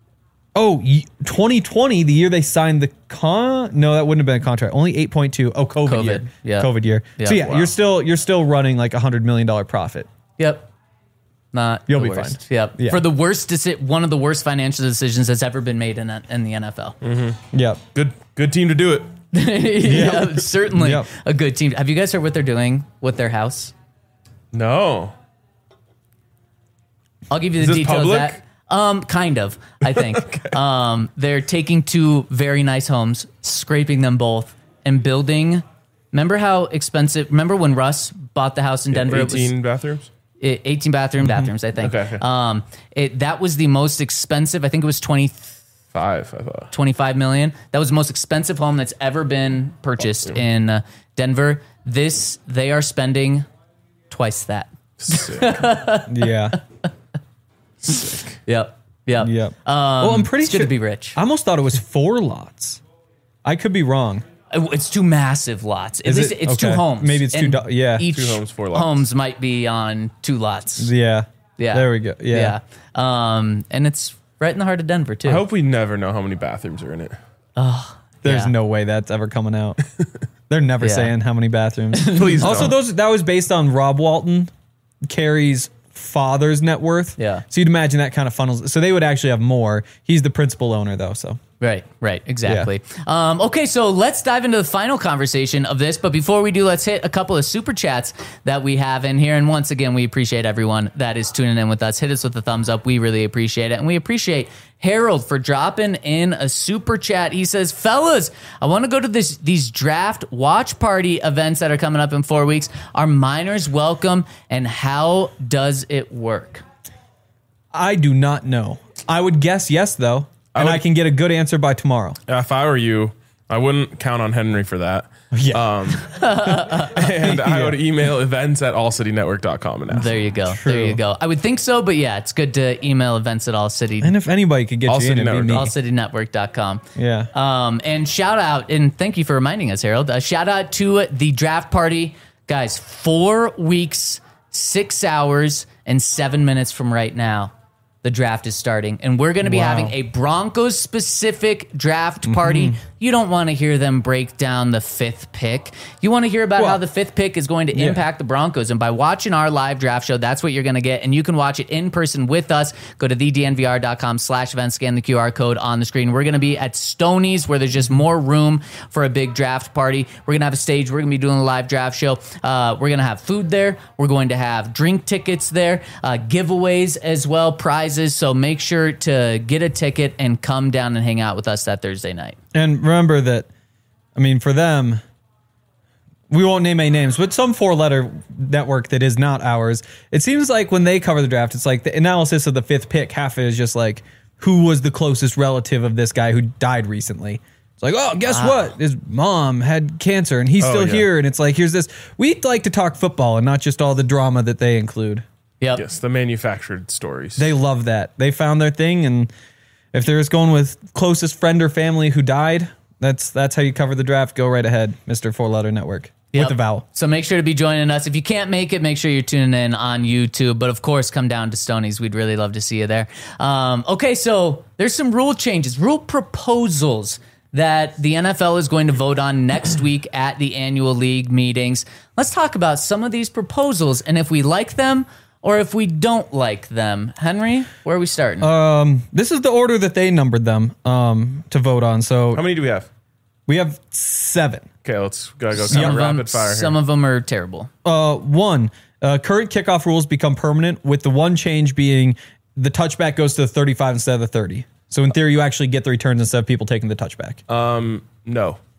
2020, the year they signed the no, that wouldn't have been a contract. Only 8.2. Oh, COVID year. Yeah. COVID year. Yeah. So yeah, Wow. you're still running like $100 million profit. Yep. Not You'll the be worst. fine. Yep. Yeah. For the worst, one of the worst financial decisions that's ever been made in the NFL. Yep. Good team to do it. Yeah, certainly Yep. a good team. Have you guys heard what they're doing with their house? No. I'll give you Is the this details. public? Kind of, I think. They're taking two very nice homes, scraping them both, and building. Remember how expensive? Remember when Russ bought the house in Denver? 18 bathrooms? 18 bathrooms, I think. Okay. That was the most expensive. I think it was 5, I thought. 25 million. That was the most expensive home that's ever been purchased in Denver. They are spending twice that. Sick. Yeah. Sick. Yep. Yep. Well, I'm pretty It's good sure to be rich. I almost thought it was 4 lots. I could be wrong. It's two massive lots. At Is least it? it's two Okay. homes. Maybe it's And yeah. Each 2 homes, 4 lots. homes might be on 2 lots. Yeah. Yeah. There we go. Yeah. And it's right in the heart of Denver too. I hope we never know how many bathrooms are in it. There's Yeah. no way that's ever coming out. They're never Yeah. saying how many bathrooms. Please Also, don't. that was based on Rob Walton, Carrie's father's net worth. Yeah. So you'd imagine that kind of funnels. So they would actually have more. He's the principal owner though. So Right, exactly. Okay, so let's dive into the final conversation of this. But before we do, let's hit a couple of super chats that we have in here. And once again, we appreciate everyone that is tuning in with us. Hit us with a thumbs up. We really appreciate it. And we appreciate Harold for dropping in a super chat. He says, fellas, I want to go to these draft watch party events that are coming up in 4 weeks. Are minors welcome? And how does it work? I do not know. I would guess yes though. And I can get a good answer by tomorrow. If I were you, I wouldn't count on Henry for that. Yeah. And I would email events@allcitynetwork.com and ask. There you go. There you go. I would think so, but yeah, it's good to email events at All City. And if anybody could get you in, it'd be me. allcitynetwork.com. Yeah. And shout out, and thank you for reminding us, Harold. Shout out to the draft party. Guys, 4 weeks, 6 hours, and 7 minutes from right now, the draft is starting. And we're going to be having a Broncos-specific draft party. You don't want to hear them break down the 5th pick. You want to hear about how the 5th pick is going to impact the Broncos. And by watching our live draft show, that's what you're going to get. And you can watch it in person with us. Go to thednvr.com/events, scan the QR code on the screen. We're going to be at Stoney's, where there's just more room for a big draft party. We're going to have a stage. We're going to be doing a live draft show. We're going to have food there. We're going to have drink tickets there, giveaways as well, prizes. So make sure to get a ticket and come down and hang out with us that Thursday night. And remember that, I mean, for them, we won't name any names, but some 4-letter network that is not ours. It seems like when they cover the draft, it's like the analysis of the 5th pick, half of it is just like, who was the closest relative of this guy who died recently? It's like, oh, guess what? His mom had cancer and he's still here. And it's like, here's this. We like to talk football and not just all the drama that they include. Yep. Yes, the manufactured stories. They love that. They found their thing, and if they're just going with closest friend or family who died, that's how you cover the draft. Go right ahead, Mr. 4-letter network. With the vowel. So make sure to be joining us. If you can't make it, make sure you're tuning in on YouTube. But of course, come down to Stoney's. We'd really love to see you there. Okay, so there's some rule changes, rule proposals that the NFL is going to vote on next week at the annual league meetings. Let's talk about some of these proposals and if we like them or if we don't like them. Henry, where are we starting? This is the order that they numbered them to vote on. So How many do we have? we have 7. Okay, let's go kind of rapid fire here. Some of them are terrible. 1, current kickoff rules become permanent, with the one change being the touchback goes to the 35 instead of the 30. So in theory, you actually get the returns instead of people taking the touchback. No.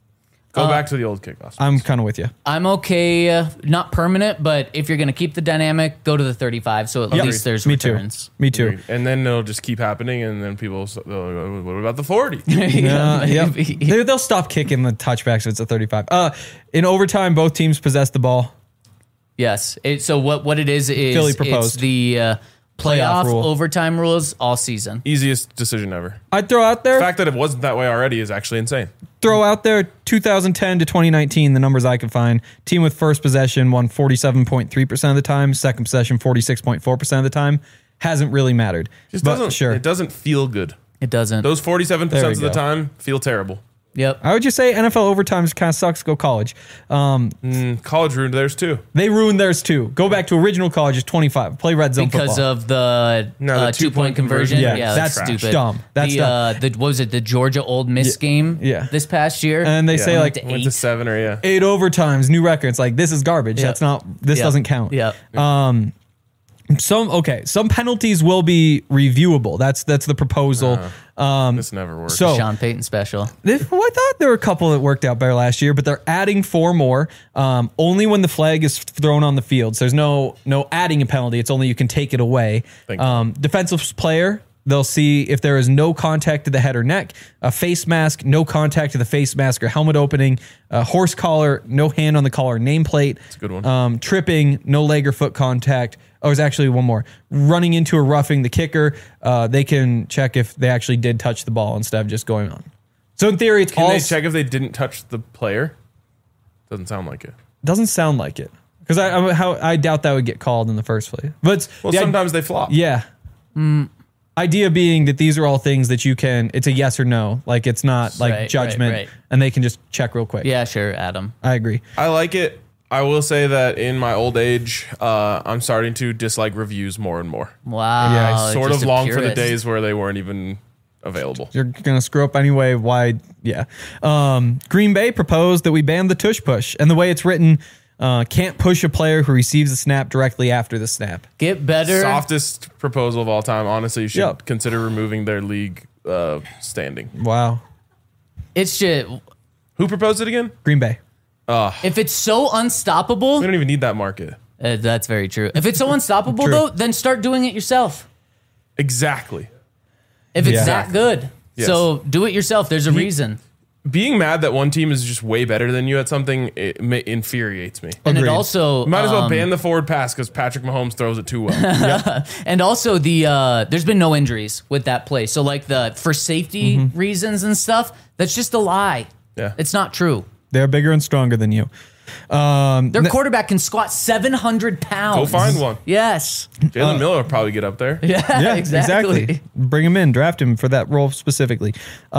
Go back to the old kickoffs. I'm kind of with you. I'm okay, not permanent, but if you're going to keep the dynamic, go to the 35. So at least there's Me returns. too. Me too. Agreed. And then it'll just keep happening, and then people will go, what about the 40? Yep. maybe. They'll stop kicking the touchbacks if it's a 35. In overtime, both teams possess the ball. Yes. So what it is Philly it's proposed. the playoff rule. overtime rules all season. Easiest decision ever. I'd throw out The there, fact that it wasn't that way already is actually insane. 2010 to 2019, the numbers I could find. Team with first possession won 47.3% of the time. Second possession, 46.4% of the time. Hasn't really mattered. Just But doesn't, sure. It doesn't feel good. It doesn't. Those 47% There we of the go. time feel terrible. Yep. I would just say NFL overtime kind of sucks. Go college. College ruined theirs too. They ruined theirs too. Go back to original college is 25. Play red zone Because football. of the, No, the 2-point conversion. conversion. Yeah, that's that's stupid. dumb. That's dumb. What was it, the Georgia Old Miss game yeah. this past year? And they say Yeah. like to Went to 7 or yeah. 8 overtimes, new records. Like this is garbage. That's not. This Yep. doesn't count. Yep. Some penalties will be reviewable. That's the proposal. This never works. So Sean Payton special. I thought there were a couple that worked out better last year, but they're adding 4 more. Only when the flag is thrown on the field. So there's no adding a penalty. It's only you can take it away. Defensive player, they'll see if there is no contact to the head or neck. A face mask, no contact to the face mask or helmet opening. A horse collar, no hand on the collar nameplate. That's a good one. Tripping, no leg or foot contact. Oh, there's actually one more. Running into or roughing the kicker. They can check if they actually did touch the ball instead of just going on. So in theory, it's Can all they check if they didn't touch the player? Doesn't sound like it. doesn't sound like it because I doubt that would get called in the first place. But Well, sometimes they flop. yeah. Idea being that these are all things that you can. It's a yes or no. Like it's not like Right, judgment, right. and they can just check real quick. Yeah, sure, Adam. I agree. I like it. I will say that in my old age, I'm starting to dislike reviews more and more. Wow. Yeah, I sort just of a long for the purist. days where they weren't even available. You're gonna screw up anyway. Why? Yeah. Green Bay proposed that we ban the tush push, and the way it's written, can't push a player who receives the snap directly after the snap. Get better. Softest proposal of all time. Honestly, you should Yep. consider removing their league standing. Wow. It's just, Who proposed it again? Green Bay. if it's so unstoppable, We don't even need that market. that's very true. If it's so unstoppable, True. though, then start doing it yourself. Exactly. If it's Yeah. that good. Yes. So do it yourself. There's a reason. Being mad that one team is just way better than you at something infuriates me. And Agreed. it also Might as well ban the forward pass because Patrick Mahomes throws it too well. and also there's been no injuries with that play. So like for safety reasons and stuff, that's just a lie. Yeah. It's not true. They're bigger and stronger than you. Their quarterback can squat 700 pounds. Go find one. Yes. Jalen Miller will probably get up there. Yeah, Yeah, exactly. Bring him in, draft him for that role specifically.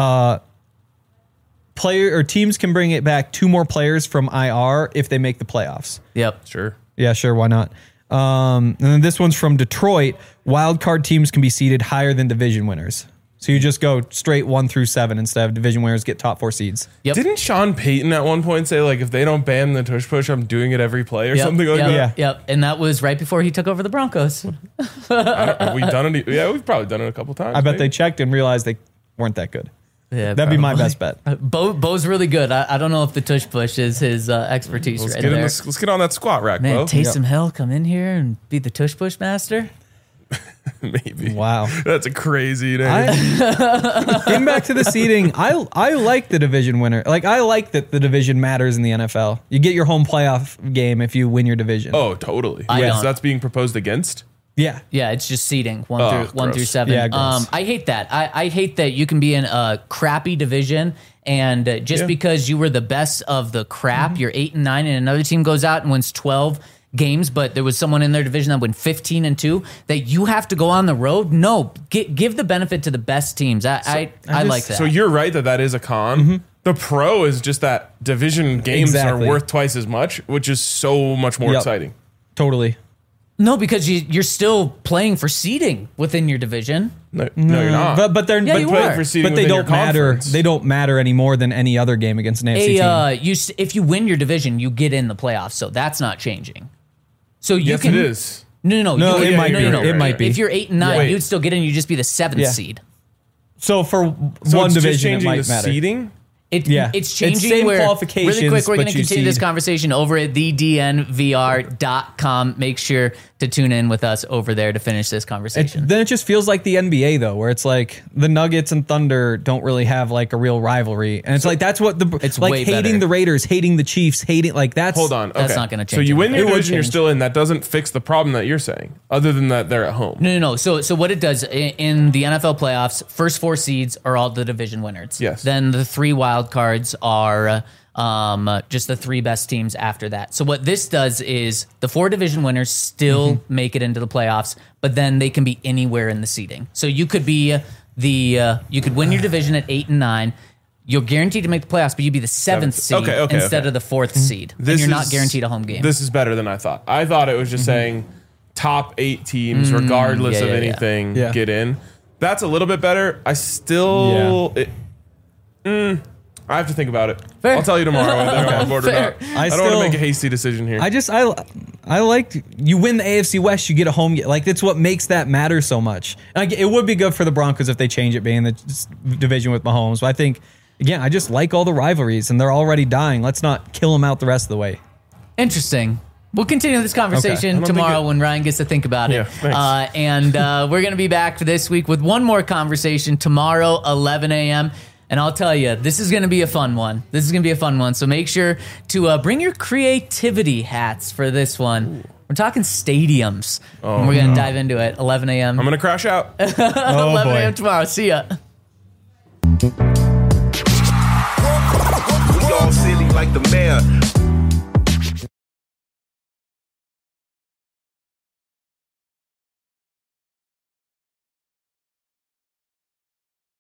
Player or teams can bring it back 2 more players from IR if they make the playoffs. Yep. Sure. Yeah, sure, why not? And then this one's from Detroit. Wild card teams can be seeded higher than division winners. So you just go straight 1 through 7 instead of division winners get top 4 seeds. Yep. Didn't Sean Payton at one point say, like, if they don't ban the tush push, I'm doing it every play or Yep, something like yep, that? Yeah. Yep. And that was right before he took over the Broncos. Have we done it? Yeah, we've probably done it a couple times. I bet they maybe. checked and realized they weren't that good. Yeah, That'd be my best bet. Bo's really good. I don't know if the tush push is his expertise Let's right get, there. let's get on that squat rack, Man, Bo. Taysom Hill, come in here and be the tush push master. Maybe. Wow. That's a crazy name. Getting back to the seeding, I like the division winner. Like, I like that the division matters in the NFL. You get your home playoff game if you win your division. Oh, totally. I Yes, don't. that's being proposed against. Yeah. Yeah, it's just seeding one Oh, through 1 gross. through 7. Yeah, gross. I hate that. I hate that you can be in a crappy division and just Yeah. because you were the best of the crap, you're 8 and 9, and another team goes out and wins 12 games, but there was someone in their division that went 15 and 2. That you have to go on the road. No, give the benefit to the best teams. I like that. So you're right that is a con. The pro is just that division games Exactly. are worth twice as much, which is so much more Yep. exciting. Totally. no, because you're still playing for seeding within your division. No, you're not. But they're Yeah, but, you playing are. for seeding but they within your don't matter. conference. They don't matter any more than any other game against an AFC team. If you win your division, you get in the playoffs. So that's not changing. So you Yes, can. it is. No, No, you it can- might be. It might be. If you're 8 and 9, Wait. you'd still get in. You'd just be the 7th Yeah. seed. So for So one it's just division, it changing might the matter. seeding. It's changing. Same Where, qualifications, really quick, we're but going to you continue this seed. conversation over at thednvr.com. Make sure to tune in with us over there to finish this conversation. Then it just feels like the NBA though, where it's like the Nuggets and Thunder don't really have like a real rivalry, and it's like that's what It's like way hating better. the Raiders, hating the Chiefs, hating like that's Hold on. That's okay. not gonna So change you win anything. your It would division, you're change. still in. That doesn't fix the problem that you're saying, other than that they're at home. No. So what it does in the NFL playoffs, first 4 seeds are all the division winners. Yes. Then the 3 wild cards are just the 3 best teams after that. So what this does is the 4 division winners still make it into the playoffs, but then they can be anywhere in the seeding. So you could be you could win your division at 8 and 9. You're guaranteed to make the playoffs, but you'd be the 7th seed instead of the 4th seed. And you're not guaranteed a home game. This is better than I thought. I thought it was just saying top 8 teams, regardless yeah, of yeah, anything, yeah. get in. That's a little bit better. I still... I have to think about it. Fair. I'll tell you tomorrow whether I'm on board or Fair. not. I don't want to make a hasty decision here. I like you win the AFC West, you get a home game. Like that's what makes that matter so much. Like it would be good for the Broncos if they change it being the division with Mahomes. But I think again, I just like all the rivalries and they're already dying. Let's not kill them out the rest of the way. Interesting. We'll continue this conversation I don't tomorrow think it- when Ryan gets to think about it. Yeah, thanks. And we're going to be back this week with one more conversation tomorrow, 11 a.m. And I'll tell you, this is going to be a fun one. So make sure to bring your creativity hats for this one. We're talking stadiums. And we're going to dive into it. 11 a.m. I'm going to crash out. 11 a.m. tomorrow. See ya. We all silly like the mayor.